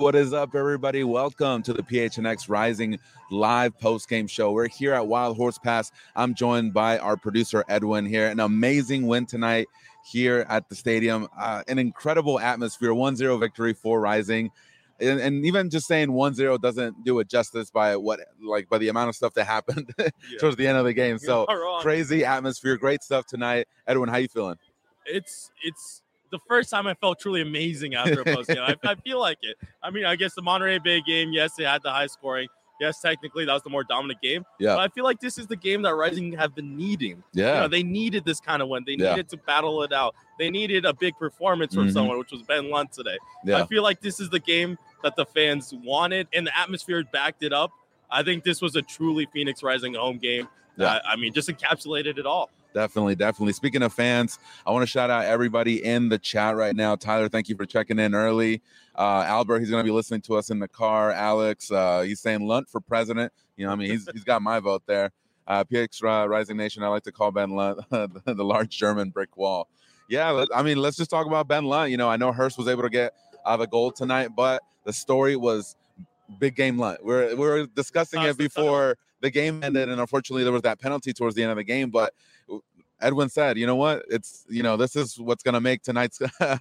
What is up, everybody? Welcome to the PHNX Rising live post-game show. We're here at Wild Horse Pass. I'm joined by our producer, Edwin, here. An amazing win tonight here at the stadium. An incredible atmosphere, 1-0 victory for Rising. And even just saying 1-0 doesn't do it justice by the amount of stuff that happened towards the end of the game. So crazy atmosphere, great stuff tonight. Edwin, how you feeling? It's the first time I felt truly amazing after a post game. I feel like it. I mean, I guess the Monterey Bay game, yes, it had the high scoring. Yes, technically that was the more dominant game. Yeah. But I feel like this is the game that Rising have been needing. Yeah. They needed this kind of win. They needed to battle it out. They needed a big performance from someone, which was Ben Lunt today. Yeah. I feel like this is the game that the fans wanted, and the atmosphere backed it up. I think this was a truly Phoenix Rising home game. Yeah. Just encapsulated it all. Definitely. Speaking of fans, I want to shout out everybody in the chat right now. Tyler, thank you for checking in early. Albert, he's going to be listening to us in the car. Alex, he's saying Lunt for president. He's got my vote there. PX Rising Nation, I like to call Ben Lunt the large German brick wall. Yeah, let's just talk about Ben Lunt. I know Hurst was able to get the goal tonight, but the story was big game Lunt. We're discussing it before the game ended, and unfortunately there was that penalty towards the end of the game. But Edwin said, you know what? It's this is what's going to make tonight's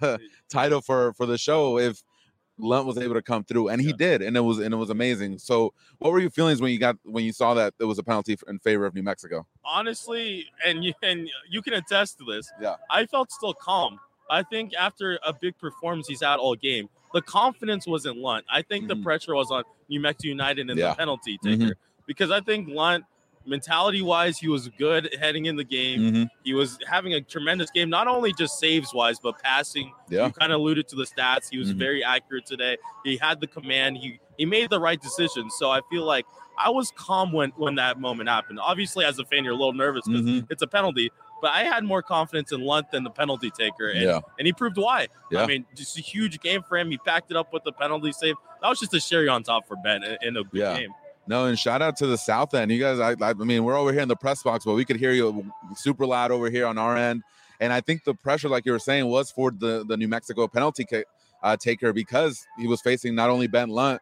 title for the show if Lunt was able to come through, and he did, and it was amazing. So, what were your feelings when you saw that there was a penalty in favor of New Mexico? Honestly, and you can attest to this. Yeah, I felt still calm. I think after a big performance he's had all game, the confidence was in Lunt. I think the pressure was on New Mexico United and the penalty taker because I think Lunt, mentality-wise, he was good heading in the game. He was having a tremendous game, not only just saves-wise, but passing. Yeah. You kind of alluded to the stats. He was very accurate today. He had the command. He made the right decision. So I feel like I was calm when that moment happened. Obviously, as a fan, you're a little nervous because it's a penalty. But I had more confidence in Lunt than the penalty taker, and he proved why. Yeah. I mean, just a huge game for him. He backed it up with the penalty save. That was just a cherry on top for Ben in a good game. No, and shout out to the South End. You guys, I mean, we're over here in the press box, but we could hear you super loud over here on our end. And I think the pressure, like you were saying, was for the New Mexico penalty taker because he was facing not only Ben Lunt.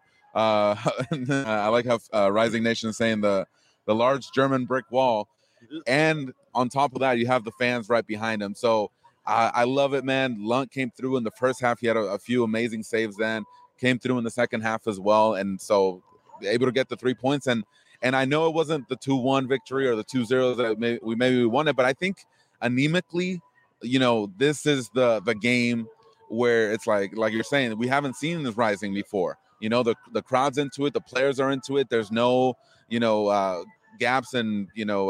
I like how Rising Nation is saying the large German brick wall. And on top of that, you have the fans right behind him. So I love it, man. Lunt came through in the first half. He had a few amazing saves then. Came through in the second half as well. And so able to get the 3 points. And I know it wasn't the 2-1 victory or the 2-0 that we won it, but I think anemically, this is the game where it's like you're saying, we haven't seen this Rising before. The crowd's into it, the players are into it. There's no, gaps in,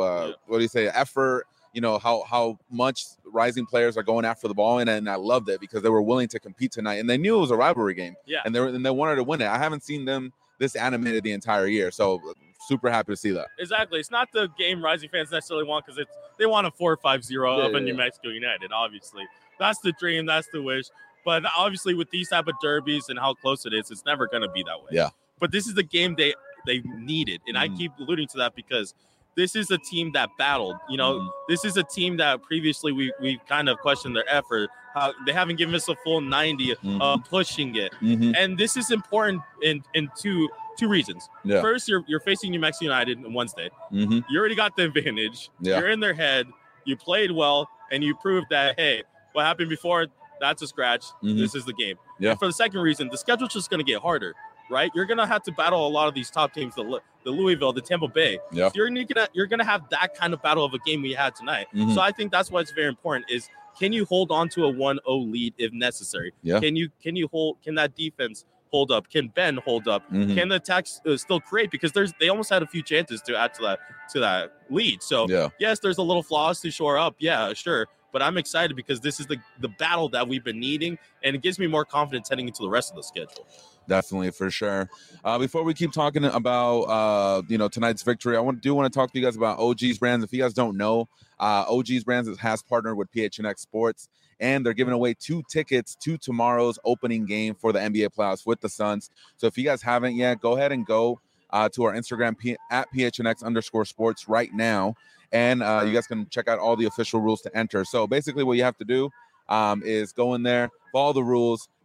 effort, how much Rising players are going after the ball. And I loved it because they were willing to compete tonight and they knew it was a rivalry game. Yeah. And they wanted to win it. I haven't seen them this animated the entire year. So super happy to see that. Exactly. It's not the game Rising fans necessarily want because they want a 4-5-0 of a New Mexico United, obviously. That's the dream. That's the wish. But obviously with these type of derbies and how close it is, it's never going to be that way. Yeah. But this is the game they needed. And I keep alluding to that because this is a team that battled. This is a team that previously we kind of questioned their effort. How they haven't given us a full 90 pushing it. And this is important in two reasons. Yeah. First, you're facing New Mexico United on Wednesday. You already got the advantage. Yeah. You're in their head. You played well, and you proved that, hey, what happened before, that's a scratch. This is the game. Yeah. And for the second reason, the schedule's just going to get harder, right? You're going to have to battle a lot of these top teams, the Louisville, the Tampa Bay. Yeah. So you're gonna have that kind of battle of a game we had tonight. So I think that's why it's very important is can you hold on to a 1-0 lead if necessary? Yeah. Can that defense hold up? Can Ben hold up? Can the attacks still create? Because they almost had a few chances to add to that lead. So yes, there's a little flaws to shore up. Yeah, sure. But I'm excited because this is the battle that we've been needing, and it gives me more confidence heading into the rest of the schedule. Definitely, for sure. Before we keep talking about tonight's victory, I want to talk to you guys about OG's Brands. If you guys don't know, OG's Brands has partnered with PHNX Sports, and they're giving away 2 tickets to tomorrow's opening game for the NBA playoffs with the Suns. So if you guys haven't yet, go ahead and go to our Instagram at PHNX_sports right now, and you guys can check out all the official rules to enter. So basically what you have to do is go in there, follow the rules,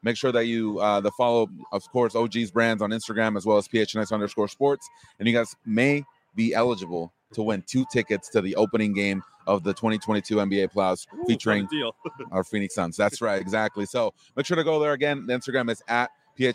Make sure that you follow, of course, OG's Brands on Instagram as well as PHNX_sports. And you guys may be eligible to win 2 tickets to the opening game of the 2022 NBA playoffs featuring our Phoenix Suns. That's right, exactly. So make sure to go there again. The Instagram is at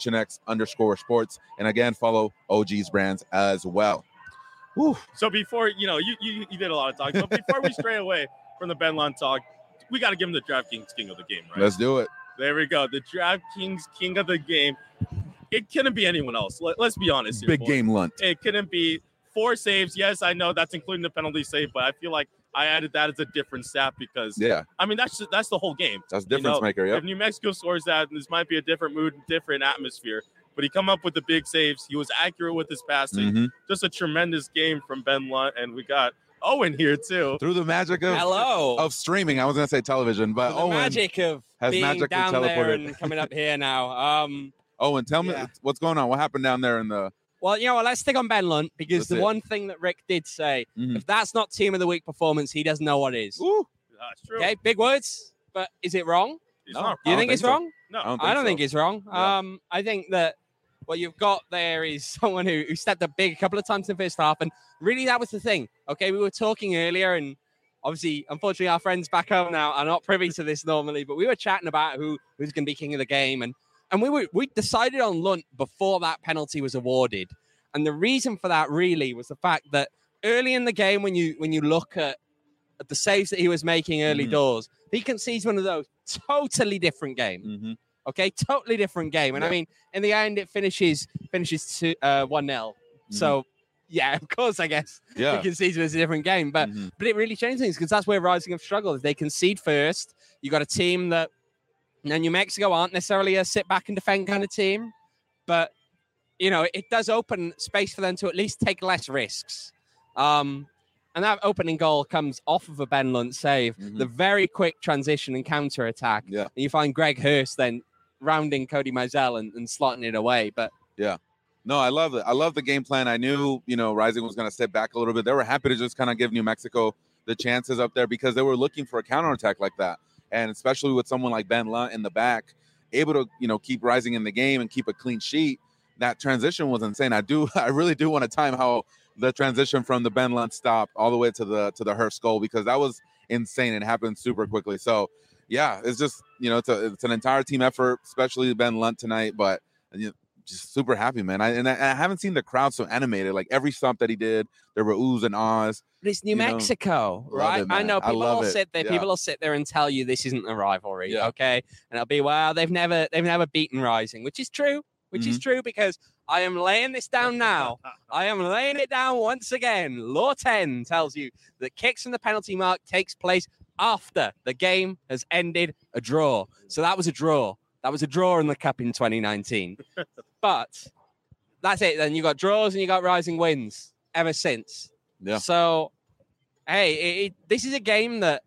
PHNX_sports. And again, follow OG's Brands as well. Woo. So before, you did a lot of talking, but before we stray away from the Ben Lunt talk, we got to give him the DraftKings King of the Game, right? Let's do it. There we go. The DraftKings King of the Game. It couldn't be anyone else. Let's be honest here. Big game Lunt. It couldn't be 4 saves. Yes, I know that's including the penalty save, but I feel like I added that as a different stat because, I mean, that's the whole game. That's difference maker, yeah. If New Mexico scores that, this might be a different mood, different atmosphere. But he come up with the big saves. He was accurate with his passing. Mm-hmm. Just a tremendous game from Ben Lunt, and we got Owen here too. Through the magic of streaming, I was going to say television, but Owen magic of has being magically down teleported. There and coming up here now. Owen, tell me what's going on. What happened down there in the? Well, let's stick on Ben Lunt because one thing that Rick did say, if that's not Team of the Week performance, he doesn't know what is. Ooh, that's true. Okay, big words, but is it wrong? No. Do you think it's wrong? No, I don't think it's wrong. Yeah. I think that what you've got there is someone who stepped up big a couple of times in the first half, and really that was the thing. Okay, we were talking earlier, and obviously, unfortunately, our friends back home now are not privy to this normally, but we were chatting about who's going to be king of the game, and we decided on Lunt before that penalty was awarded. And the reason for that really was the fact that early in the game, when you look at the saves that he was making early doors, he concedes one of those totally different game. Mm-hmm. Okay, totally different game. And I mean, in the end, it finishes to 1-0. So, yeah, of course, I guess he concedes was a different game. But it really changed things because that's where Rising have struggled. They concede first. You got a team that New Mexico aren't necessarily a sit back and defend kind of team, but it does open space for them to at least take less risks. And that opening goal comes off of a Ben Lunt save, the very quick transition and counter attack. Yeah. And you find Greg Hurst then rounding Cody Mizell and slotting it away. But no, I love it. I love the game plan. I knew, Rising was going to step back a little bit. They were happy to just kind of give New Mexico the chances up there because they were looking for a counterattack like that. And especially with someone like Ben Lunt in the back, able to, keep Rising in the game and keep a clean sheet. That transition was insane. I really do want to time how the transition from the Ben Lunt stop all the way to the Hurst goal because that was insane. It happened super quickly. So yeah, it's just it's an entire team effort, especially Ben Lunt tonight. But just super happy, man. I haven't seen the crowd so animated. Like every stop that he did, there were oohs and ahs. But it's New Mexico, right? I know people will sit there. Yeah. People will sit there and tell you this isn't a rivalry, okay? And it'll be they've never beaten Rising, which is true. Which is true because I am laying this down now. I am laying it down once again. Law 10 tells you that kicks from the penalty mark takes place after the game has ended a draw. So that was a draw. That was a draw in the Cup in 2019. But that's it. Then you got draws and you got Rising wins ever since. Yeah. So, hey, this is a game that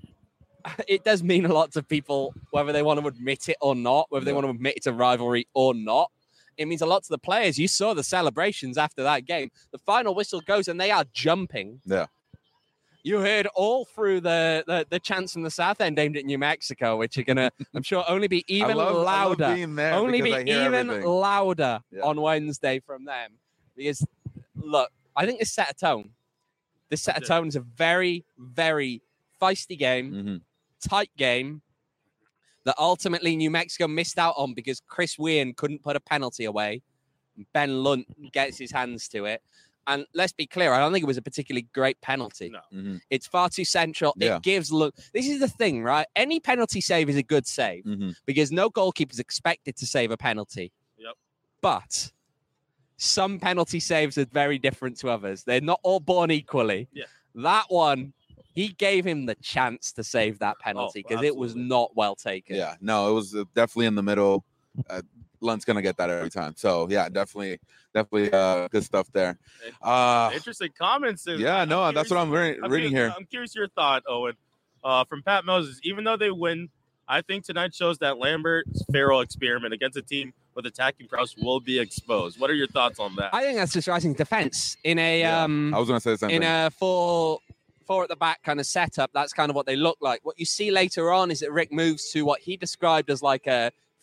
it does mean a lot to people, whether they want to admit it or not, whether they want to admit it's a rivalry or not. It means a lot to the players. You saw the celebrations after that game. The final whistle goes and they are jumping. Yeah. You heard all through the chants from the South End aimed at New Mexico, which are going to, I'm sure, only be even louder. Only be even louder on Wednesday from them. Because, look, I think this set a tone. This set a tone is a very, very feisty game, tight game, that ultimately New Mexico missed out on because Chris Weirn couldn't put a penalty away. Ben Lunt gets his hands to it. And let's be clear, I don't think it was a particularly great penalty. No. It's far too central. Yeah. It gives look. This is the thing, right? Any penalty save is a good save because no goalkeeper is expected to save a penalty. Yep. But some penalty saves are very different to others. They're not all born equally. Yeah. That one, he gave him the chance to save that penalty because it was not well taken. Yeah, no, it was definitely in the middle. Lunt's going to get that every time. So, yeah, definitely good stuff there. Interesting comments. That's what I'm reading here. I'm curious your thought, Owen, from Pat Moses. Even though they win, I think tonight shows that Lambert's Farrell experiment against a team with attacking prowess will be exposed. What are your thoughts on that? I think that's just Rising's defense in a I was going to say the same thing. A four at the back kind of setup. That's kind of what they look like. What you see later on is that Rick moves to what he described as like a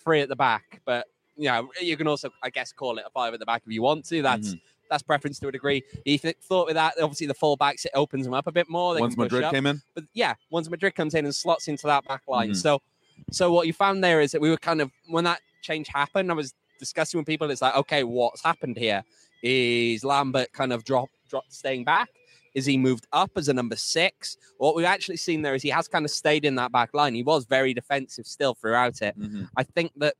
3 at the back, but you can also, I guess, call it a 5 at the back if you want to. That's preference to a degree. You thought with that, obviously the fullbacks, it opens them up a bit more. Once Madrid came in? But once Madrid comes in and slots into that back line. So what you found there is that we were kind of, when that change happened, I was discussing with people, it's like, okay, what's happened here? Is Lambert kind of dropped staying back? Is he moved up as a number 6? What we've actually seen there is he has kind of stayed in that back line. He was very defensive still throughout it. I think that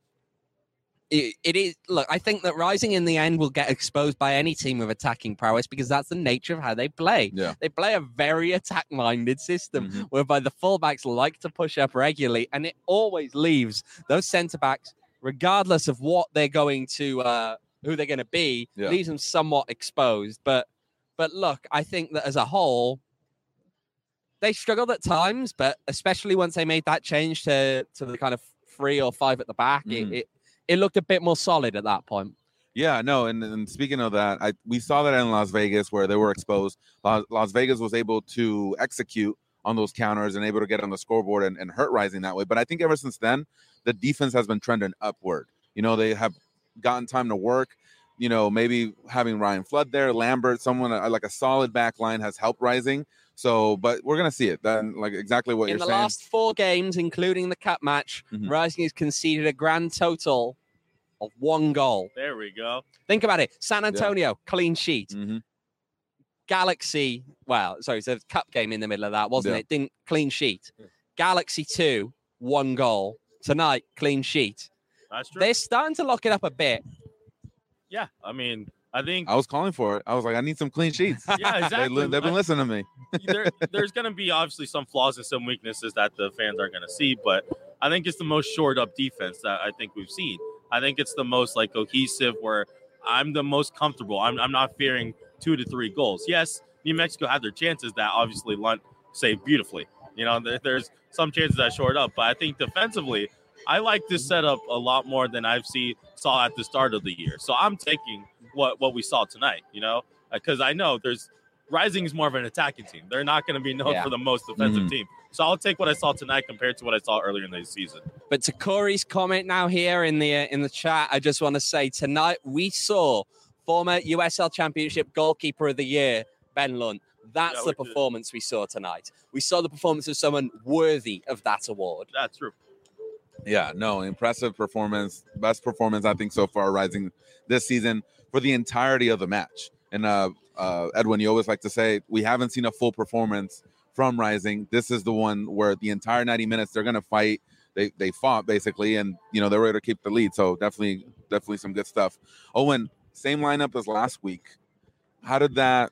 it is. Look, I think that Rising in the end will get exposed by any team with attacking prowess because that's the nature of how they play. Yeah. They play a very attack-minded system whereby the fullbacks like to push up regularly, and it always leaves those centre-backs, regardless of what they're going to, who they're going to be, leaves them somewhat exposed. But look, I think that as a whole, they struggled at times, but especially once they made that change to the kind of 3 or 5 at the back, it looked a bit more solid at that point. Yeah, no, and speaking of that, we saw that in Las Vegas where they were exposed. Las Vegas was able to execute on those counters and able to get on the scoreboard and hurt Rising that way. But I think ever since then, the defense has been trending upward. They have gotten time to work. Maybe having Ryan Flood there, Lambert, someone like a solid back line has helped Rising. So, but we're going to see it. Then, like exactly what you're saying. In the last 4 games, including the cup match, Rising has conceded a grand total of 1 goal. There we go. Think about it. San Antonio, clean sheet. Galaxy, it's a cup game in the middle of that, wasn't it? Didn't clean sheet. Galaxy 2, 1 goal. Tonight, clean sheet. That's true. They're starting to lock it up a bit. Yeah, I mean, I think I was calling for it. I was like, I need some clean sheets. Yeah, exactly. They've been listening to me. There's going to be obviously some flaws and some weaknesses that the fans are going to see, but I think it's the most shored up defense that I think we've seen. I think it's the most like cohesive where I'm the most comfortable. I'm not fearing 2 to 3 goals. Yes, New Mexico had their chances that obviously Lunt saved beautifully. There's some chances that shored up, but I think defensively, I like this setup a lot more than saw at the start of the year. So I'm taking what we saw tonight, because I know Rising is more of an attacking team. They're not going to be known for the most defensive team. So I'll take what I saw tonight compared to what I saw earlier in the season. But to Corey's comment now here in the chat, I just want to say tonight we saw former USL Championship Goalkeeper of the Year, Ben Lunt. That's the performance we saw tonight. We saw the performance of someone worthy of that award. That's true. Yeah, no, impressive performance. Best performance, I think, so far, Rising this season for the entirety of the match. And Edwin, you always like to say, we haven't seen a full performance from Rising. This is the one where the entire 90 minutes, they're going to fight. They fought, basically, and, they're ready to keep the lead. So definitely some good stuff. Owen, same lineup as last week. How did that,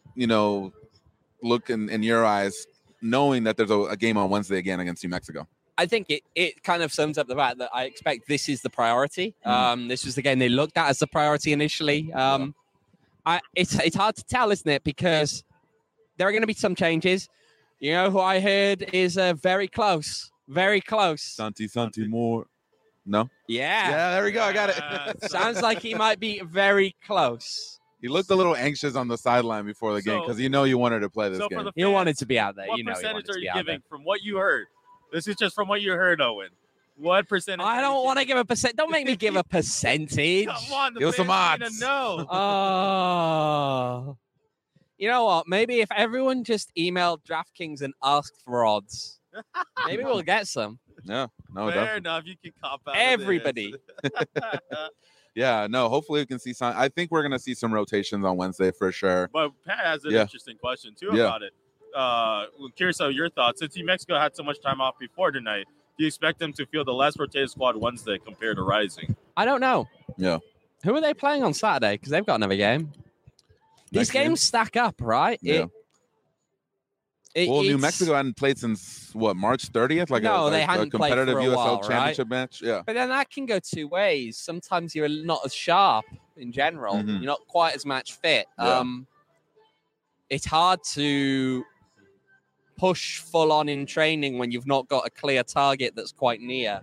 look in your eyes, knowing that there's a game on Wednesday again against New Mexico? I think it kind of sums up the fact that I expect this is the priority. This was the game they looked at as the priority initially. It's hard to tell, isn't it? Because there are going to be some changes. Who I heard is very close. Santi Moore. No? Yeah, there we go. I got it. Sounds like he might be very close. He looked a little anxious on the sideline before the game because you wanted to play this game. Fans, he wanted to be out there. What percentage are you giving from what you heard? This is just from what you heard, Owen. What percentage? I don't want to give a percent. Don't make me give a percentage. Come on, give some odds. No. Oh. You know what? Maybe if everyone just emailed DraftKings and asked for odds, maybe we'll get some. Yeah, no, fair enough. You can cop out. Everybody. Yeah, no. Hopefully, we can see some. I think we're gonna see some rotations on Wednesday for sure. But Pat has an interesting question too about it. Curious of your thoughts. Since New Mexico had so much time off before tonight, do you expect them to field the less rotated squad Wednesday compared to Rising? I don't know. Yeah. Who are they playing on Saturday? Because they've got another game. These games stack up, right? Yeah. New Mexico hadn't played since March 30th? They hadn't a competitive played for a while, USL championship match. Yeah. But then that can go 2 ways. Sometimes you're not as sharp in general. You're not quite as match fit. Yeah. It's hard to push full on in training when you've not got a clear target that's quite near.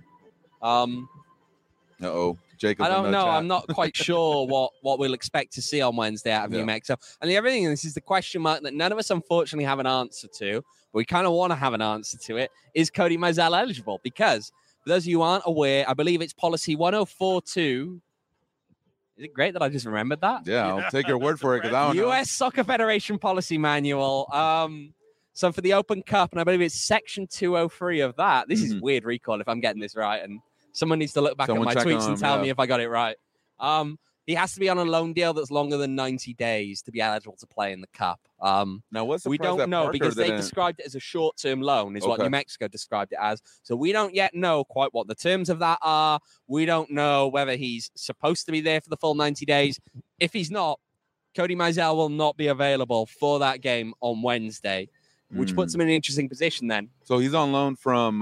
Jacob. I don't know. I'm not quite sure what we'll expect to see on Wednesday out of New Mexico. And the other thing, this is the question mark that none of us unfortunately have an answer to, but we kind of want to have an answer to it. Is Cody Mizell eligible? Because For those of you who aren't aware, I believe it's policy 1042. Is it great that I just remembered that? Yeah, I'll take your word for it because I don't know. U.S. Soccer Federation Policy Manual. So for the Open Cup, and I believe it's section 203 of that. This is weird recall if I'm getting this right, and someone needs to look back at my tweets and tell me if I got it right. He has to be on a loan deal that's longer than 90 days to be eligible to play in the Cup. Now, what's the we don't know because they described it as a short-term loan, is what New Mexico described it as. So we don't yet know quite what the terms of that are. We don't know whether he's supposed to be there for the full 90 days. If he's not, Cody Mizell will not be available for that game on Wednesday, which puts him in an interesting position then. So he's on loan from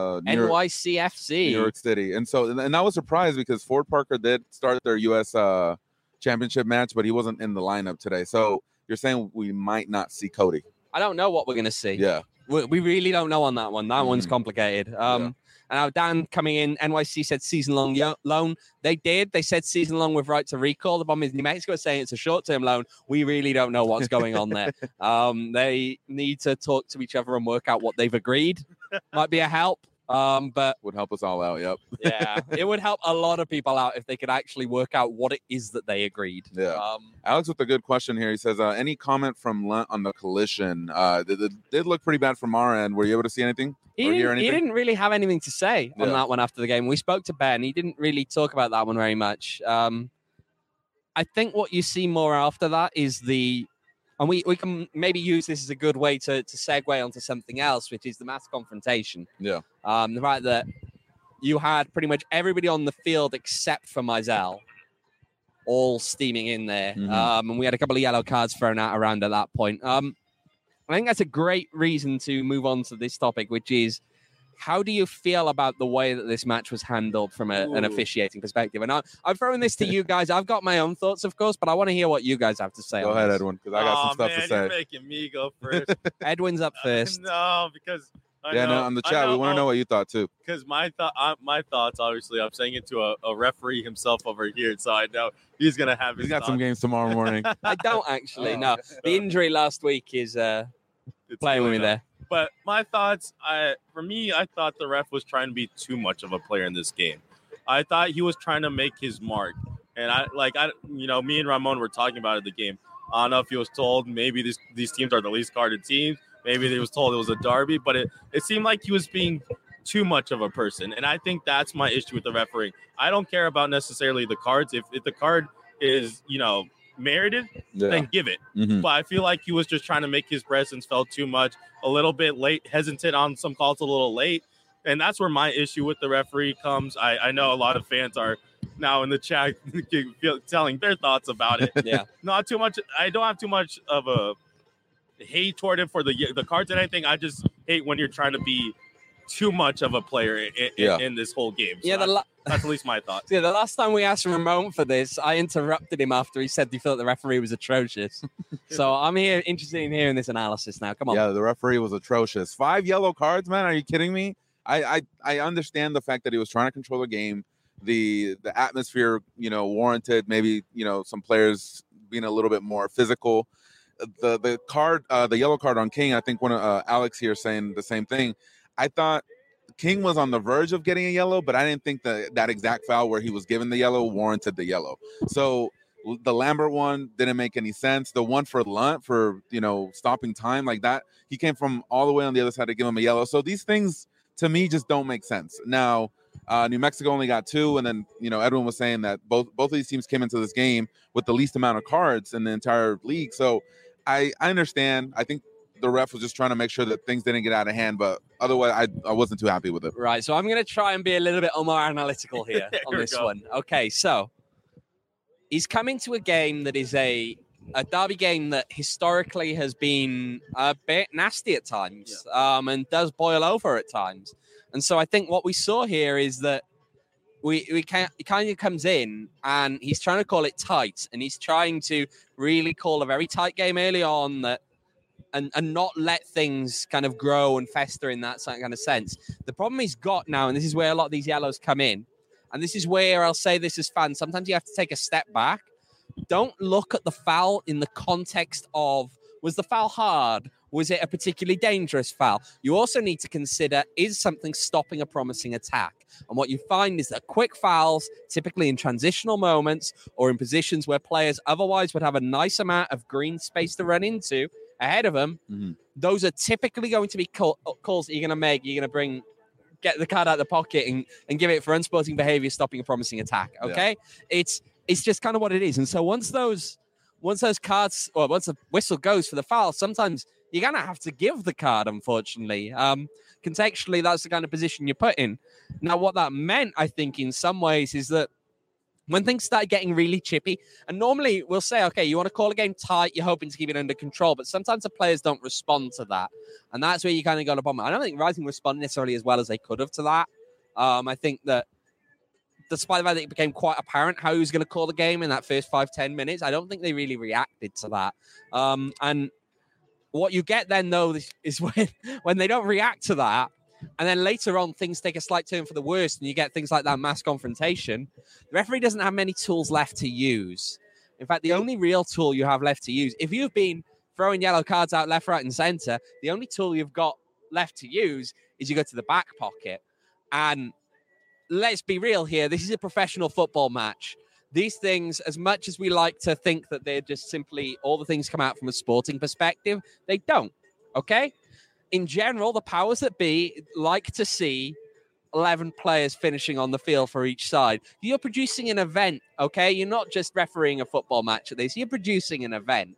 NYCFC. New York City. And I was surprised because Ford Parker did start their U.S. championship match, but he wasn't in the lineup today. So you're saying we might not see Cody? I don't know what we're going to see. Yeah. We really don't know on that one. That one's complicated. And now Dan coming in, NYC said season-long loan. They did. They said season-long with right to recall. The problem is New Mexico is saying it's a short-term loan. We really don't know what's going on there. They need to talk to each other and work out what they've agreed. Might be a help. But would help us all out. Yep. Yeah, it would help a lot of people out if they could actually work out what it is that they agreed. Yeah. Alex with a good question here. He says, any comment from Lunt on the collision? It did look pretty bad from our end. Were you able to see anything? He didn't really have anything to say on that one after the game. We spoke to Ben. He didn't really talk about that one very much. I think what you see more after that is and we can maybe use this as a good way to segue onto something else, which is the mass confrontation. Yeah. The fact that you had pretty much everybody on the field except for Mizell all steaming in there. And we had a couple of yellow cards thrown out around at that point. I think that's a great reason to move on to this topic, which is how do you feel about the way that this match was handled from an officiating perspective? And I'm throwing this to you guys. I've got my own thoughts, of course, but I want to hear what you guys have to say. Go ahead, Edwin, because I got some stuff to say. You're making me go first. Edwin's up first. No, because on the chat, we want to know what you thought too. Because my thoughts, obviously, I'm saying it to a referee himself over here, so I know he's gonna have. He's got some games tomorrow morning. I don't actually. No, the injury last week is playing with me there. But my thoughts, for me, I thought the ref was trying to be too much of a player in this game. I thought he was trying to make his mark, and me and Ramon were talking about it the game. I don't know if he was told maybe these teams are the least carded teams. Maybe he was told it was a derby, but it seemed like he was being too much of a person, and I think that's my issue with the refereeing. I don't care about necessarily the cards. If the card is merited, then give it. But I feel like he was just trying to make his presence felt too much, a little bit late, hesitant on some calls, a little late, and that's where my issue with the referee comes. I know a lot of fans are now in the chat telling their thoughts about it. Yeah, not too much. I don't have too much of a hate toward it for the cards and anything. I just hate when you're trying to be too much of a player in this whole game. So that's at least my thoughts. Yeah, the last time we asked Ramon for this, I interrupted him after he said he felt the referee was atrocious. So I'm interested in hearing this analysis now. Come on. Yeah, the referee was atrocious. 5 yellow cards, man. Are you kidding me? I understand the fact that he was trying to control the game. The atmosphere, warranted maybe, some players being a little bit more physical. The yellow card on King, I think one of Alex here saying the same thing. I thought King was on the verge of getting a yellow, but I didn't think that exact foul where he was given the yellow warranted the yellow. So the Lambert one didn't make any sense. The one for Lunt for, stopping time like that, he came from all the way on the other side to give him a yellow. So these things to me just don't make sense. Now, New Mexico only got 2, and then, Edwin was saying that both of these teams came into this game with the least amount of cards in the entire league. So I understand. I think the ref was just trying to make sure that things didn't get out of hand, but otherwise I wasn't too happy with it. Right, so I'm going to try and be a little bit more analytical here on this one. Okay, so he's coming to a game that is a derby game that historically has been a bit nasty at times, and does boil over at times. And so I think what we saw here is that he kind of comes in and he's trying to call it tight, and he's trying to really call a very tight game early on that and not let things kind of grow and fester in that kind of sense. The problem he's got now, and this is where a lot of these yellows come in, and this is where I'll say this as fans, sometimes you have to take a step back. Don't look at the foul in the context of, was the foul hard? Was it a particularly dangerous foul? You also need to consider, is something stopping a promising attack? And what you find is that quick fouls, typically in transitional moments or in positions where players otherwise would have a nice amount of green space to run into ahead of them, those are typically going to be calls that you're going to make. You're going to get the card out of the pocket and give it for unsporting behavior, stopping a promising attack. Okay? Yeah. It's just kind of what it is. And so once those cards, or once the whistle goes for the foul, sometimes you're going to have to give the card, unfortunately. Contextually, that's the kind of position you're put in. Now, what that meant, I think, in some ways, is that when things started getting really chippy, and normally we'll say, okay, you want to call a game tight, you're hoping to keep it under control, but sometimes the players don't respond to that. And that's where you kind of got a problem. I don't think Rising responded necessarily as well as they could have to that. I think that despite the fact that it became quite apparent how he was going to call the game in that first 5-10 minutes, I don't think they really reacted to that. And what you get then, though, is when they don't react to that, and then later on, things take a slight turn for the worst, and you get things like that mass confrontation. The referee doesn't have many tools left to use. In fact, the only real tool you have left to use, if you've been throwing yellow cards out left, right, and center, the only tool you've got left to use is you go to the back pocket. And let's be real here. This is a professional football match. These things, as much as we like to think that they're just simply all the things come out from a sporting perspective, they don't. Okay? In general, the powers that be like to see 11 players finishing on the field for each side. You're producing an event, okay? You're not just refereeing a football match at this. You're producing an event.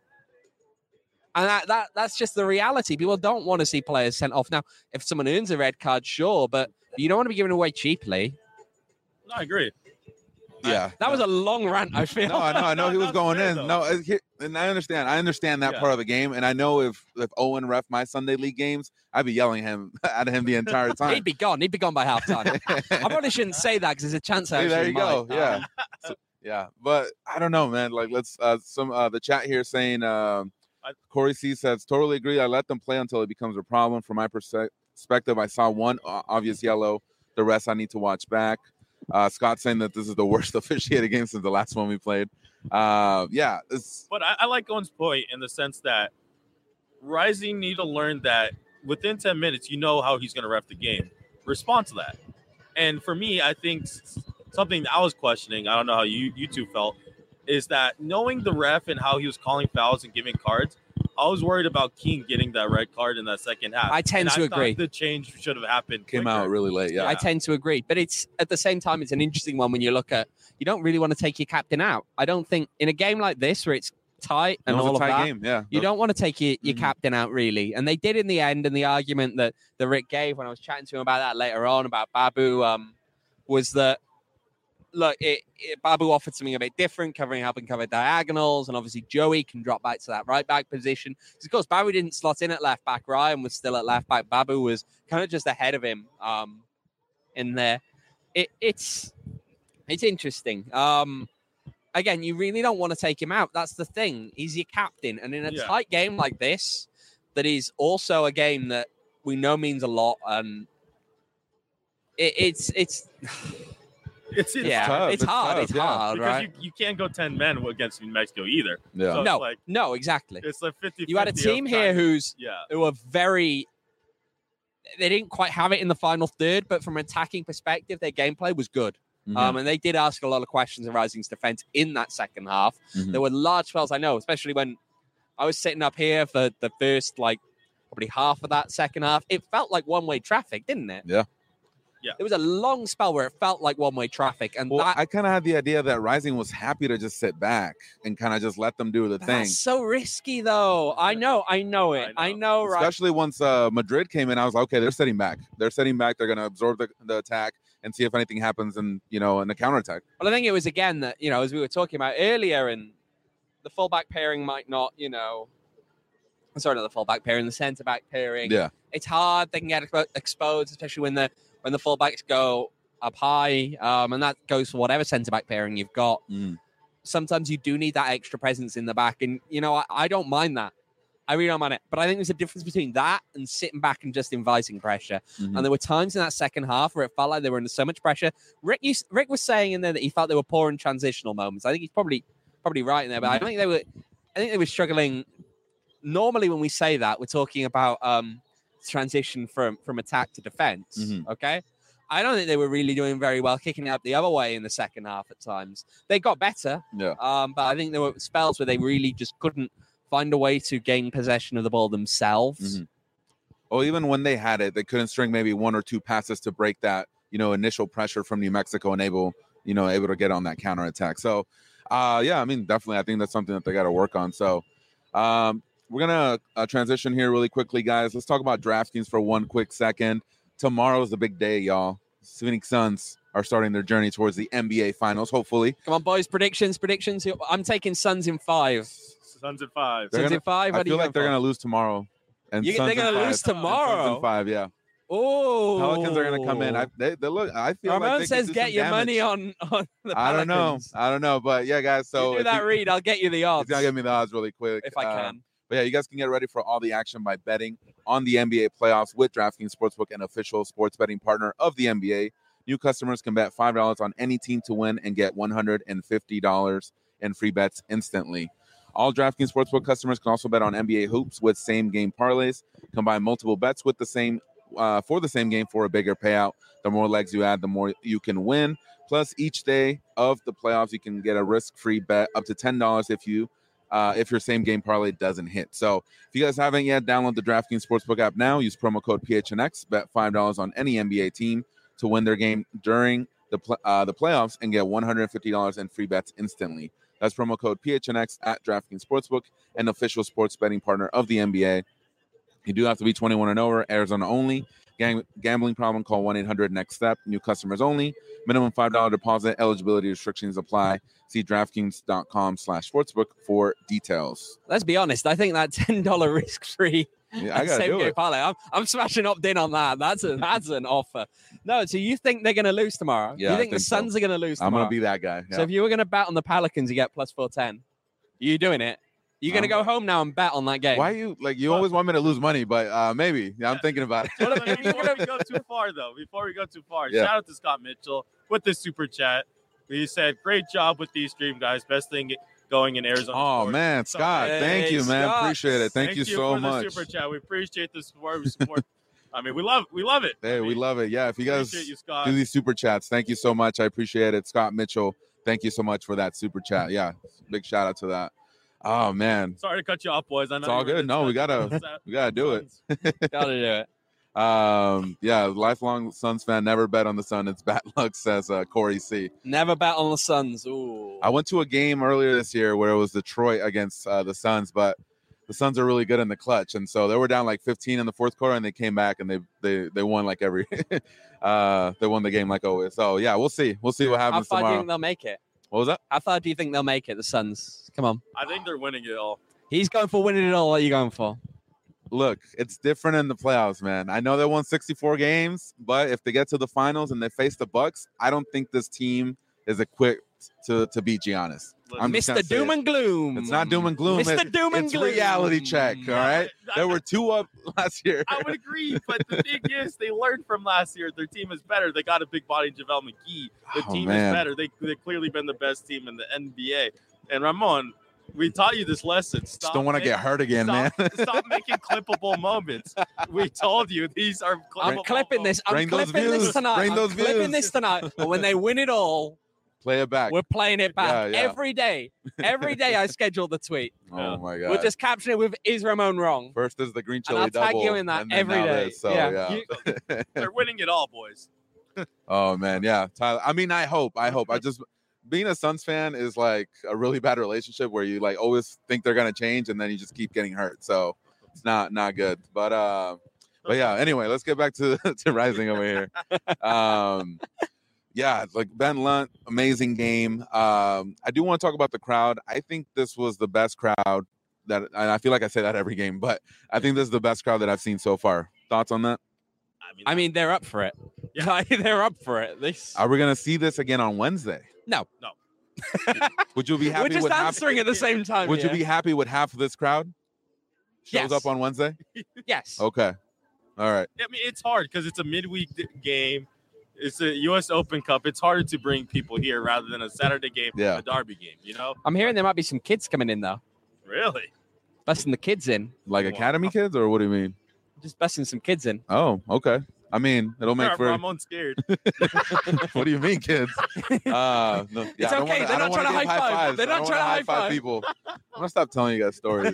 And that's just the reality. People don't want to see players sent off. Now, if someone earns a red card, sure, but you don't want to be given away cheaply. No, I agree. Yeah, that was a long rant. I feel. No, I know he was going in. No, and I understand that part of the game, and I know if Owen ref my Sunday league games, I'd be yelling at him the entire time. He'd be gone by halftime. I probably shouldn't say that because there's a chance. There you go. Yeah, yeah, but I don't know, man. Like, let's the chat here saying Corey C says totally agree. I let them play until it becomes a problem. From my perspective, I saw one obvious yellow. The rest I need to watch back. Scott saying that this is the worst officiated game since the last one we played. Yeah. But I like Owen's point in the sense that Rising need to learn that within 10 minutes, you know how he's going to ref the game. Respond to that. And for me, I think something I was questioning, I don't know how you two felt, is that knowing the ref and how he was calling fouls and giving cards, I was worried about King getting that red card in that second half. I tend to agree. The change should have happened quicker. Came out really late, yeah. I tend to agree. But it's at the same time, it's an interesting one when you look at, you don't really want to take your captain out. I don't think in a game like this where it's tight and all of that, game, yeah. You don't want to take your captain out, really. And they did in the end, and the argument that Rick gave when I was chatting to him about that later on, about Babu, was that, look, Babu offered something a bit different, helping cover diagonals, and obviously Joey can drop back to that right back position. Because of course, Babu didn't slot in at left back. Ryan was still at left back. Babu was kind of just ahead of him in there. It's interesting. Again, you really don't want to take him out. That's the thing. He's your captain, and in a tight game like this, that is also a game that we know means a lot, and it's. It's tough. It's hard, because right? You can't go 10 men against New Mexico either. Yeah. So no, exactly. It's like 50-50. You had a team here who are very. They didn't quite have it in the final third, but from an attacking perspective, their gameplay was good. Mm-hmm. And they did ask a lot of questions of Rising's defense in that second half. Mm-hmm. There were large spells, I know, especially when I was sitting up here for the first, probably half of that second half. It felt like one-way traffic, didn't it? Yeah. Yeah. There was a long spell where it felt like one-way traffic. And I kind of had the idea that Rising was happy to just sit back and kind of just let them do the thing. That's so risky, though. I know it. I know, right? Especially once Madrid came in, I was like, okay, they're sitting back. They're going to absorb the attack and see if anything happens in the counterattack. Well, I think it was, again, that, as we were talking about earlier, and the fullback pairing might not, sorry, not the fullback pairing, the centre-back pairing. Yeah. It's hard. They can get exposed, especially when the fullbacks go up high, and that goes for whatever centre-back pairing you've got. Sometimes you do need that extra presence in the back, and, I don't mind that. I really don't mind it. But I think there's a difference between that and sitting back and just inviting pressure. Mm-hmm. And there were times in that second half where it felt like they were under so much pressure. Rick was saying in there that he felt they were poor in transitional moments. I think he's probably right in there, but I think they were struggling normally when we say that, we're talking about transition from attack to defense. Mm-hmm. Okay. I don't think they were really doing very well kicking it up the other way in the second half at times. They got better. Yeah. But I think there were spells where they really just couldn't find a way to gain possession of the ball themselves. Mm-hmm. Well, even when they had it, they couldn't string maybe one or two passes to break that, initial pressure from New Mexico and able to get on that counterattack. So, yeah, I mean, definitely, I think that's something that they got to work on. So, we're going to transition here really quickly, guys. Let's talk about DraftKings for one quick second. Tomorrow's the big day, y'all. Phoenix Suns are starting their journey towards the NBA Finals, hopefully. Come on, boys. Predictions. I'm taking Suns in 5. Suns in 5. Suns in 5? I feel like they're going to lose tomorrow. And they're going to lose tomorrow? Suns in 5, yeah. Oh, Pelicans are going to come in. They look. I feel Ramon like they says get your money on the Pelicans. I don't know, but yeah, guys. So you do that read, I'll get you the odds. He's gonna give me the odds really quick if I can. But yeah, you guys can get ready for all the action by betting on the NBA playoffs with DraftKings Sportsbook, an official sports betting partner of the NBA. New customers can bet $5 on any team to win and get $150 in free bets instantly. All DraftKings Sportsbook customers can also bet on NBA hoops with same-game parlays. Combine multiple bets with the same for the same game for a bigger payout. The more legs you add, the more you can win. Plus, each day of the playoffs, you can get a risk-free bet up to $10 if your same-game parlay doesn't hit. So, if you guys haven't yet, download the DraftKings Sportsbook app now. Use promo code PHNX. Bet $5 on any NBA team to win their game during the playoffs and get $150 in free bets instantly. That's promo code PHNX at DraftKings Sportsbook, an official sports betting partner of the NBA. You do have to be 21 and over, Arizona only. Gambling problem, call 1-800-NEXT-STEP. New customers only. Minimum $5 deposit. Eligibility restrictions apply. See DraftKings.com/sportsbook for details. Let's be honest. I think that $10 risk-free I gotta do it. Parlay, I'm smashing opt-in on that. That's an offer. No, so you think they're going to lose tomorrow? Yeah, you think the Suns are going to lose tomorrow? I'm going to be that guy. Yeah. So if you were going to bet on the Pelicans, you get plus 410. Are you doing it? You're going to go home now and bet on that game. Why you always want me to lose money, but maybe. Yeah, I'm thinking about it. Before we go too far, shout out to Scott Mitchell with the super chat. He said, great job with these stream, guys. Best thing going in Arizona. Oh, sports. man, Scott. Thank you, man. Scott. Appreciate it. Thank you so for much. The super chat. We appreciate the support. I mean, we love it. Hey, we love it. Yeah, if you guys do these super chats, thank you so much. I appreciate it. Scott Mitchell, thank you so much for that super chat. Yeah, big shout out to that. Oh man, sorry to cut you off, boys. I know it's all good. No, we gotta do it. Gotta do it. Yeah, lifelong Suns fan. Never bet on the Sun. It's bad luck, says Corey C. Never bet on the Suns. Ooh. I went to a game earlier this year where it was Detroit against the Suns, but the Suns are really good in the clutch, and so they were down like 15 in the fourth quarter, and they came back and they won like every they won the game like always. So yeah, we'll see what happens tomorrow. How far do you think they'll make it? What was that? How far do you think they'll make it? The Suns. Come on. I think they're winning it all. He's going for winning it all. What are you going for? Look, it's different in the playoffs, man. I know they won 64 games, but if they get to the finals and they face the Bucks, I don't think this team is equipped to beat Giannis. Mr. Doom and Gloom. It's not doom and gloom. Mr. Doom and Gloom. It's reality check, all right? There were 2 up last year. I would agree, but the thing is, they learned from last year. Their team is better. They got a big body in JaVale McGee. The team is better. They've clearly been the best team in the NBA. And Ramon, we taught you this lesson. Just don't want to get hurt again, man. Stop making clippable moments. We told you these are clippable. I'm clipping this. I'm clipping this tonight. I'm clipping this tonight. But when they win it all, play it back. We're playing it back every day. Every day I schedule the tweet. Oh my God. We'll just caption it with "Is Ramon wrong?" First is the green chili and I'll double. tag you in that every day. So yeah. They're winning it all, boys. Oh man, yeah. Tyler. I mean, I hope. I just being a Suns fan is like a really bad relationship where you like always think they're gonna change and then you just keep getting hurt. So it's not good. But yeah. Anyway, let's get back to Rising over here. Yeah, like Ben Lunt, amazing game. I do want to talk about the crowd. I think this was the best crowd and I feel like I say that every game, but I think this is the best crowd that I've seen so far. Thoughts on that? I mean, they're up for it. Yeah, they're up for it. Are we gonna see this again on Wednesday? No. Would you be happy? We're just answering at the same time. Would you be happy with half of this crowd shows up on Wednesday? Yes. Okay. All right. I mean, it's hard because it's a midweek game. It's a U.S. Open Cup. It's harder to bring people here rather than a Saturday game, a Derby game. You know. I'm hearing there might be some kids coming in though. Really? Busting the kids in. Like academy kids, or what do you mean? Just busting some kids in. Oh, okay. I mean, it'll make for. Ramon's scared. What do you mean, kids? No, it's okay. They're not trying to high five. They're not trying to high five people. I'm gonna stop telling you guys stories.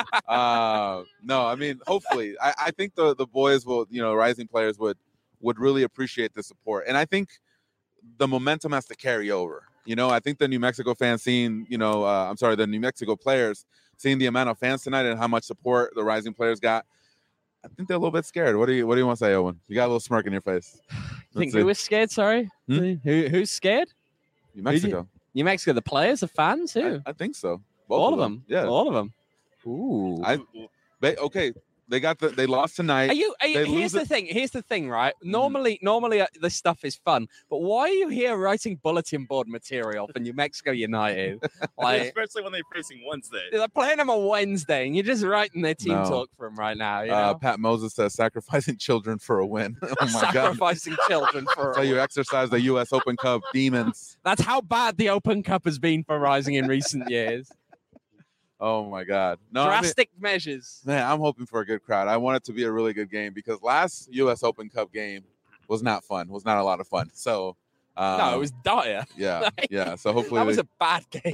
No, I mean, hopefully, I think the boys will, rising players would really appreciate the support, and I think the momentum has to carry over. I think the New Mexico fans seeing, the New Mexico players seeing the amount of fans tonight and how much support the rising players got. I think they're a little bit scared. What do you want to say, Owen? You got a little smirk in your face. Who was scared? Sorry, who's scared? New Mexico. New Mexico. The players, the fans, who? I think so. All of them. Yeah, all of them. Ooh. Okay. They lost tonight. Here's the thing, right? Normally this stuff is fun, but why are you here writing bulletin board material for New Mexico United? Especially when they're facing Wednesday. They're playing them on Wednesday, and you're just writing their team talk for them right now. Pat Moses says sacrificing children for a win. Oh my sacrificing children for a win. So you exercise the U.S. Open Cup demons. That's how bad the Open Cup has been for Rising in recent years. Oh my God! No, drastic measures. Man, I'm hoping for a good crowd. I want it to be a really good game because last U.S. Open Cup game was not fun. Was not a lot of fun. So no, it was dire. Yeah, yeah. So hopefully that was a bad game.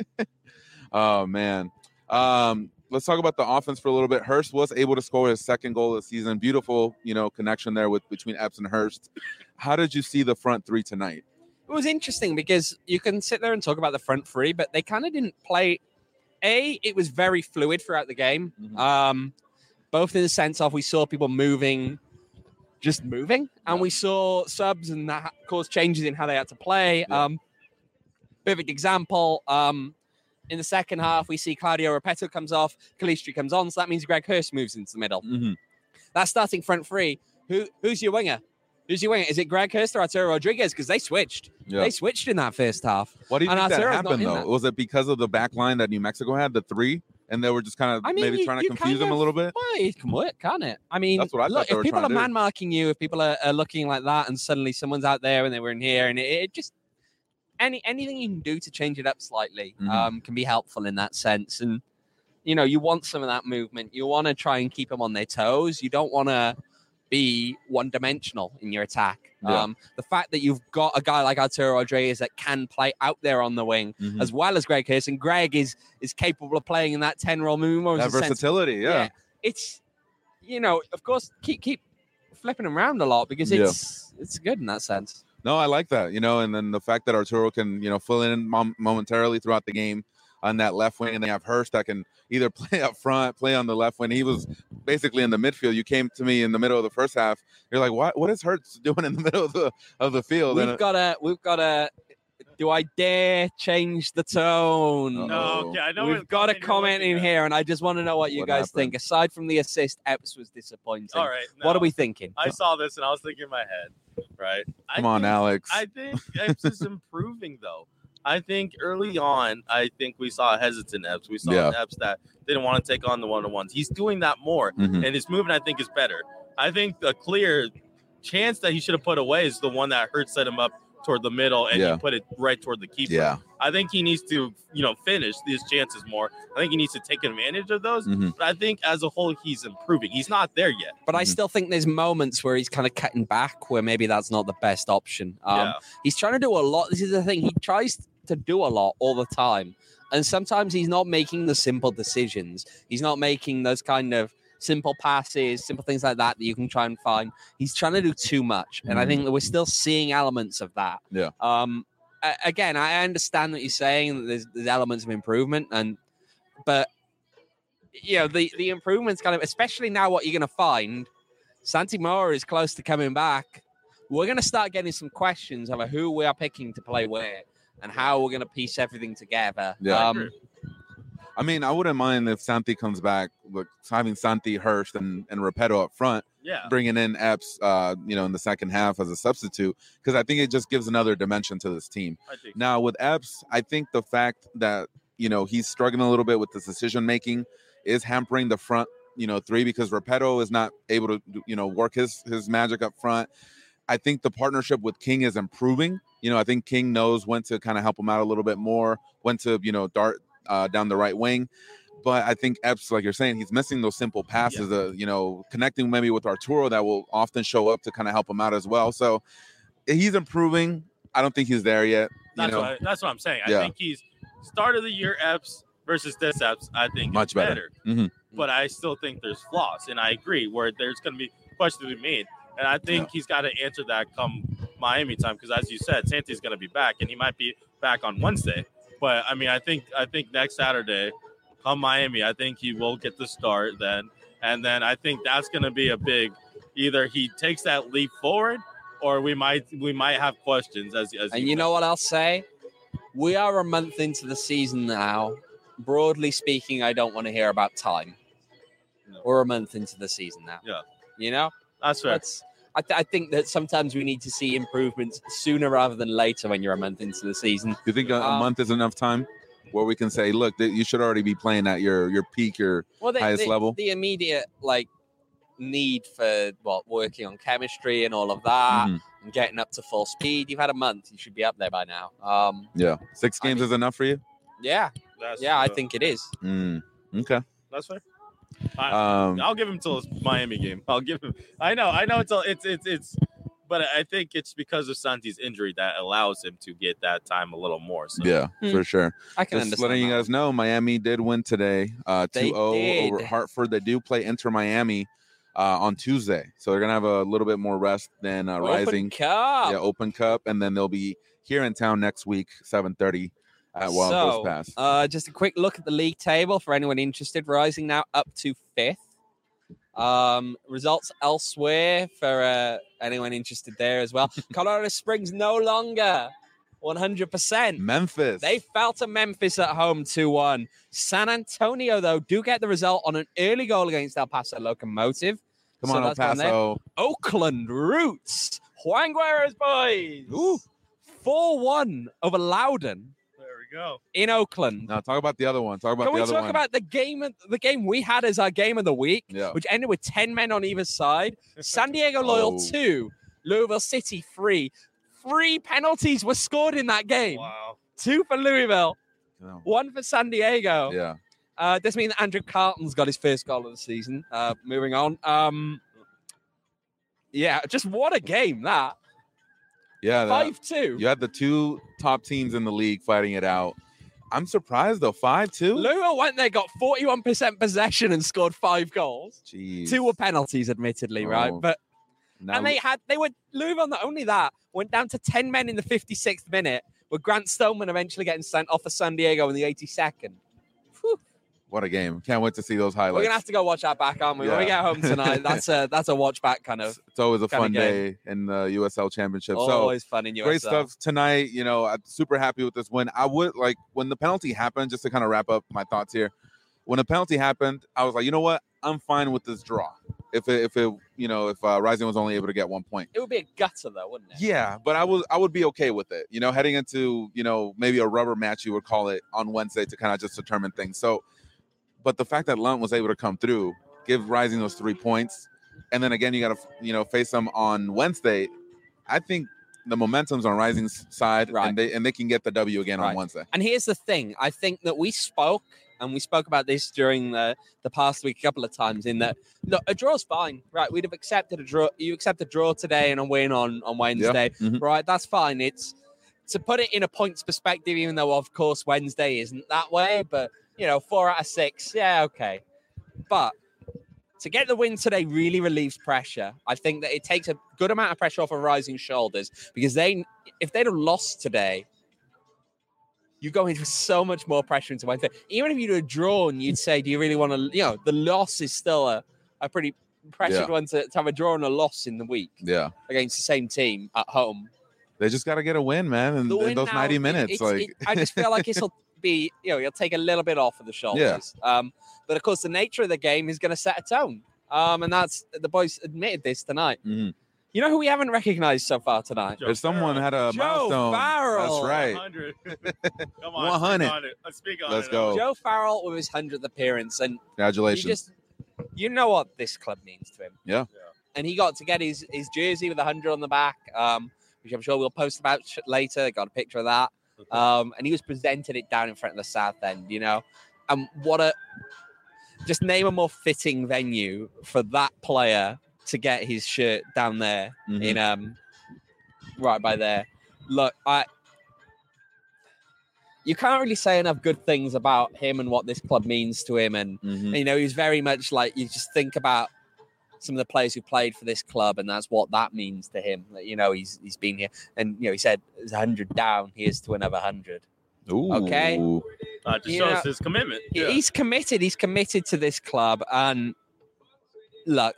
Oh man. Let's talk about the offense for a little bit. Hurst was able to score his second goal of the season. Beautiful, connection there between Epps and Hurst. How did you see the front three tonight? It was interesting because you can sit there and talk about the front three, but they kind of didn't play. It was very fluid throughout the game, both in the sense of we saw people moving, and we saw subs and that caused changes in how they had to play. Yeah. Perfect example, in the second half, we see Claudio Repetto comes off, Calistri comes on, so that means Greg Hurst moves into the middle. Mm-hmm. That starting front three, who's your winger? Is it Greg Hurst or Arturo Rodriguez? Because they switched. Yeah. They switched in that first half. What do you think that happened, though? Was it because of the back line that New Mexico had, the three, and they were just kind of maybe trying to confuse them a little bit? Well, it can work, can't it? I mean, that's what I thought if people are man-marking you, if people are looking like that, and suddenly someone's out there and they were in here, and it just anything you can do to change it up slightly can be helpful in that sense. And, you want some of that movement. You want to try and keep them on their toes. You don't want to be one-dimensional in your attack. Yeah. The fact that you've got a guy like Arturo Rodriguez that can play out there on the wing, as well as Greg Hurst, and Greg is capable of playing in that 10-role movement. That versatility, yeah. It's, of course, keep flipping him around a lot because it's good in that sense. No, I like that, and then the fact that Arturo can, fill in momentarily throughout the game on that left wing, and they have Hurst that can either play up front, play on the left wing. He was basically in the midfield. You came to me in the middle of the first half. You're like, what is Hurst doing in the middle of the field? We've got a. Do I dare change the tone? No, okay, I know we've got a comment in here, and I just want to know what you guys think. Aside from the assist, Epps was disappointing. All right, what are we thinking? I saw this and I was thinking in my head, right? Come on, Alex. I think Epps is improving though. I think early on, we saw a hesitant Epps. We saw an Epps that didn't want to take on the one-on-ones. He's doing that more, and his movement, I think, is better. I think the clear chance that he should have put away is the one that Hurst set him up toward the middle, and he put it right toward the keeper. Yeah. I think he needs to, finish these chances more. I think he needs to take advantage of those. But I think as a whole, he's improving. He's not there yet. But I still think there's moments where he's kind of cutting back, where maybe that's not the best option. He's trying to do a lot. This is the thing. He tries to do a lot all the time. And sometimes he's not making the simple decisions. He's not making those kind of simple passes, simple things like that you can try and find. He's trying to do too much. And I think that we're still seeing elements of that. Yeah. Again, I understand what you're saying. There's elements of improvement. But the improvements kind of, especially now what you're going to find, Santi Mora is close to coming back. We're going to start getting some questions over who we are picking to play where and how we're going to piece everything together. Yeah. I mean, I wouldn't mind if Santi comes back, with having Santi, Hurst, and Repetto up front, bringing in Epps, in the second half as a substitute, because I think it just gives another dimension to this team. Now, with Epps, I think the fact that, he's struggling a little bit with this decision-making is hampering the front, three, because Repetto is not able to, work his magic up front. I think the partnership with King is improving. I think King knows when to kind of help him out a little bit more, when to, dart down the right wing. But I think Epps, like you're saying, he's missing those simple passes, connecting maybe with Arturo that will often show up to kind of help him out as well. So he's improving. I don't think he's there yet. That's what I'm saying. I think he's start of the year Epps versus this Epps, I think much better. Mm-hmm. But I still think there's flaws. And I agree where there's going to be questions to be made. And I think he's got to answer that come Miami time. Because as you said, Santi's going to be back. And he might be back on Wednesday. But, I mean, I think next Saturday, come Miami, I think he will get the start then. And then I think that's going to be a big – either he takes that leap forward or we might have questions. As and you know what I'll say? We are a month into the season now. Broadly speaking, I don't want to hear about time. No. We're a month into the season now. Yeah. You know? That's fair. I think that sometimes we need to see improvements sooner rather than later when you're a month into the season. Do you think a month is enough time where we can say, look, you should already be playing at your peak, highest level? The immediate, need for working on chemistry and all of that and getting up to full speed. You've had a month. You should be up there by now. 6 games is enough for you? Yeah. I think it is. Okay. That's fair. I'll give him till his Miami game. I'll give him. I know. It's. But I think it's because of Santi's injury that allows him to get that time a little more. So. Yeah, for sure. I can Just understand letting that. you guys know, Miami did win today, 2-0 over Hartford. They do play Inter Miami on Tuesday, so they're gonna have a little bit more rest than Rising Cup. Yeah, Open Cup, and then they'll be here in town next week, 7:30 at Wild Coast Pass. Just a quick look at the league table for anyone interested. Rising now up to 5th. Results elsewhere for anyone interested there as well. Colorado Springs no longer 100%. Memphis. They fell to Memphis at home 2-1. San Antonio, though, do get the result on an early goal against El Paso Locomotive. Come on, El Paso. Oakland Roots. Juan Guerra's boys. 4-1 over Loudoun. Go in Oakland. Now talk about the other one. Can we talk about the game we had as our game of the week, yeah, which ended with 10 men on either side? San Diego Loyal 2, Louisville City 3. 3 penalties were scored in that game. Wow. 2 for Louisville, 1 for San Diego. Yeah. This means Andrew Carlton's got his first goal of the season. Moving on. Just what a game that. Yeah, 5-2. You had the 2 top teams in the league fighting it out. I'm surprised though, 5-2. Louisville went there, got 41% possession, and scored 5 goals. Jeez. 2 were penalties, admittedly, right? But Louisville. Not only that, went down to 10 men in the 56th minute, with Grant Stoneman eventually getting sent off for San Diego in the 82nd. Whew. What a game! Can't wait to see those highlights. We're gonna have to go watch that back, aren't we? When we get home tonight, that's a watch back kind of. It's always a fun day in the USL Championship. Always fun in USL. Great stuff tonight. I'm super happy with this win. I would when the penalty happened. Just to kind of wrap up my thoughts here. When the penalty happened, I was like, you know what? I'm fine with this draw. If Rising was only able to get 1 point, it would be a gutter though, wouldn't it? Yeah, but I would be okay with it. Heading into maybe a rubber match, you would call it, on Wednesday to kind of just determine things. So. But the fact that Lunt was able to come through, give Rising those 3 points, and then again you got to face them on Wednesday. I think the momentum's on Rising's side, right, and they can get the W again on Wednesday. And here's the thing: I think that we spoke about this during the past week a couple of times. In that, look, a draw's fine, right? We'd have accepted a draw. You accept a draw today and a win on Wednesday, right? That's fine. It's to put it in a points perspective, even though of course Wednesday isn't that way, but. 4 out of 6. Yeah, okay. But to get the win today really relieves pressure. I think that it takes a good amount of pressure off of Rising shoulders because if they'd have lost today, you go into so much more pressure into Wednesday. Even if you'd have drawn, you'd say, do you really want to, the loss is still a pretty pressured one to have a draw and a loss in the week. Yeah. Against the same team at home. They just got to get a win, man. In those now, 90 minutes. I just feel like it'll be, you'll take a little bit off of the shoulders. Yeah. But of course, the nature of the game is going to set a tone. And that's the boys admitted this tonight. Mm-hmm. You know who we haven't recognized so far tonight? If someone had a milestone. Joe Farrell. That's right. 100. Come on. 100. Let's speak on Let's it. go. Joe Farrell with his 100th appearance. And congratulations. You know what this club means to him. Yeah. And he got to get his jersey with 100 on the back, which I'm sure we'll post about later. Got a picture of that. And he was presented it down in front of the South End, And just name a more fitting venue for that player to get his shirt down there in right by there. Look, you can't really say enough good things about him and what this club means to him. And, you know, he's very much like, you just think about some of the players who played for this club, and that's what that means to him. You know, he's been here. And, you know, he said, there's 100 down, here's to another 100. Ooh. Okay? Just shows his commitment. Yeah. He's committed. He's committed to this club. And, look,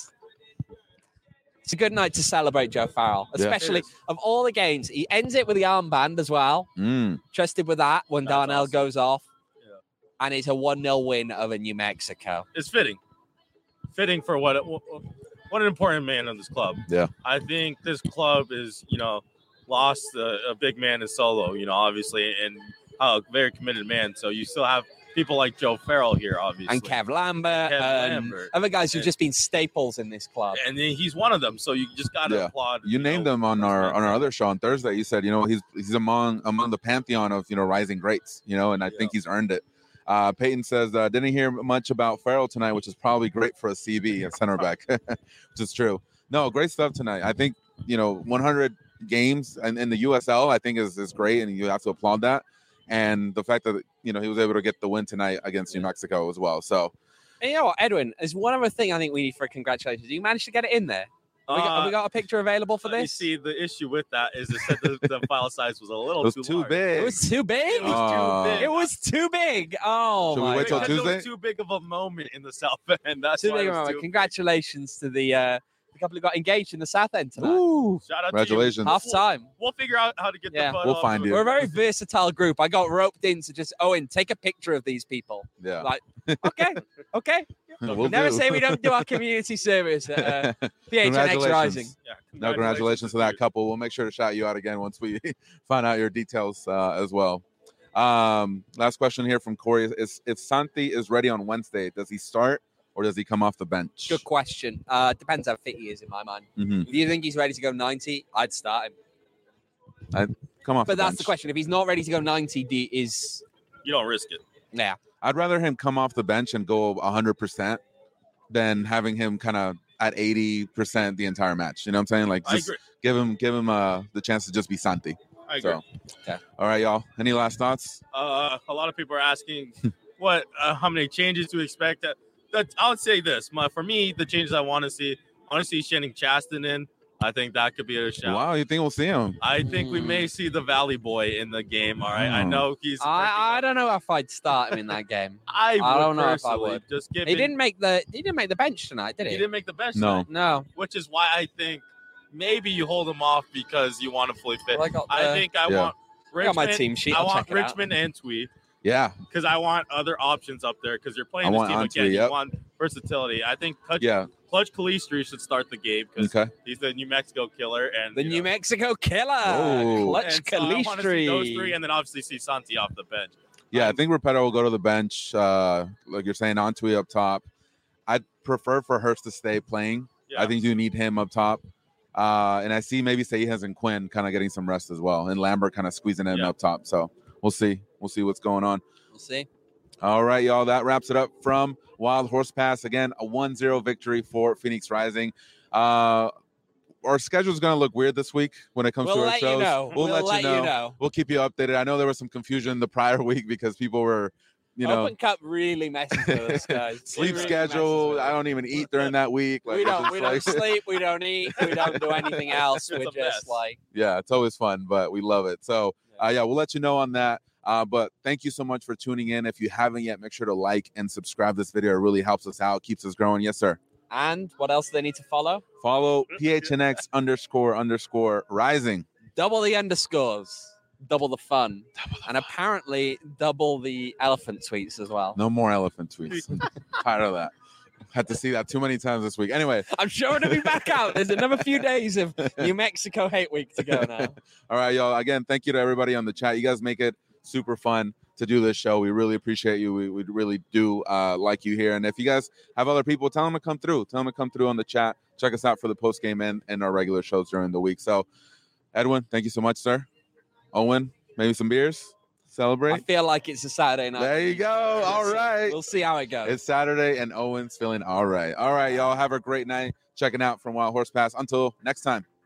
it's a good night to celebrate Joe Farrell, especially of all the games. He ends it with the armband as well. Trusted with that when Darnell goes off. Yeah. And it's a 1-0 win over New Mexico. It's fitting for what an important man in this club. Yeah. I think this club is, you know, lost a big man in Solo, you know, obviously, and a very committed man. So you still have people like Joe Farrell here, obviously. And Kev Lambert. Other guys who've just been staples in this club. And he's one of them. So you just got to applaud. You named them on our other show on Thursday. You said, you know, he's among the pantheon of, you know, rising greats, you know, and I think he's earned it. Peyton says, didn't hear much about Farrell tonight, which is probably great for a CB at center back, which is true. No, great stuff tonight. I think, you know, 100 games in the USL, I think is great, and you have to applaud that. And the fact that, you know, he was able to get the win tonight against New Mexico as well. So, and you know what, Edwin, there's one other thing I think we need for a congratulations. You managed to get it in there. Have we got a picture available for this? You see, the issue with that is it said the file size was a little too big. It was too big? It was too big. It was too big. Oh, should we wait till Tuesday? It was too big of a moment in the South End. That's too big of a moment. Congratulations to the couple who got engaged in the South End tonight. Ooh, shout out congratulations. Half time. We'll figure out how to get the photo. We'll find you. We're a very versatile group. I got roped in to just, Owen, take a picture of these people. Yeah. Like, okay. We'll never say we don't do our community service at PHNX Rising. Yeah, congratulations to that couple. We'll make sure to shout you out again once we find out your details as well. Last question here from Corey is, if Santi is ready on Wednesday, does he start or does he come off the bench? Good question. Depends how fit he is in my mind. If you think he's ready to go 90, I'd start him. I'd come off. But that's bench. the question. If he's not ready to go 90, you don't risk it. Yeah. I'd rather him come off the bench and go 100% than having him kind of at 80% the entire match. You know what I'm saying? Like, just give him the chance to just be Santi. I agree. So, okay. All right, y'all. Any last thoughts? A lot of people are asking how many changes to expect. I would say this. For me, the changes I want to see Channing Chaston in. I think that could be a shout. Wow, you think we'll see him? I think we may see the Valley Boy in the game. All right, I know he's. I don't know if I'd start him in that game. I don't know if I would. Just he didn't make the bench tonight, did he? He didn't make the bench. No. Tonight. No. Which is why I think maybe you hold him off because you want to fully fit. Well, I want Richmond. I got my team sheet. I want Richmond and Twee. Yeah, because I want other options up there because you're playing this team again. You want versatility. I think Clutch Calistri should start the game because he's the New Mexico killer. And New Mexico killer. Clutch Calistri. I want to see those three and then obviously see Santi off the bench. Yeah, I think Repetto will go to the bench. Like you're saying, Antwi up top. I'd prefer for Hurst to stay playing. Yeah. I think you need him up top. And I see maybe Seijas and Quinn kind of getting some rest as well. And Lambert kind of squeezing in up top. So we'll see. We'll see what's going on. We'll see. All right, y'all. That wraps it up from Wild Horse Pass. Again, a 1-0 victory for Phoenix Rising. Our schedule is going to look weird this week when it comes to our shows. We'll let you know. We'll keep you updated. I know there was some confusion the prior week because people were, Open Cup really messes with us, guys. Sleep schedule. I don't even eat during that week. Like, we don't sleep. We don't eat. We don't do anything else. We're just like. Yeah, it's always fun, but we love it. So, we'll let you know on that. But thank you so much for tuning in. If you haven't yet, make sure to like and subscribe this video. It really helps us out, keeps us growing. Yes, sir. And what else do they need to follow? Follow PHNX__rising. Double the underscores. Double the fun. And apparently double the elephant tweets as well. No more elephant tweets. Tired of that. Had to see that too many times this week. Anyway. I'm sure it'll be back out. There's another few days of New Mexico Hate Week to go now. All right, y'all. Again, thank you to everybody on the chat. You guys make it super fun to do this show. We really appreciate you. We really do like you here. And if you guys have other people, tell them to come through. Tell them to come through on the chat. Check us out for the post game and our regular shows during the week. So, Edwin, thank you so much, sir. Owen, maybe some beers? celebrate? I feel like it's a Saturday night. There you go. All right. We'll see how it goes. It's Saturday, and Owen's feeling all right. All right, y'all have a great night checking out from Wild Horse Pass. Until next time.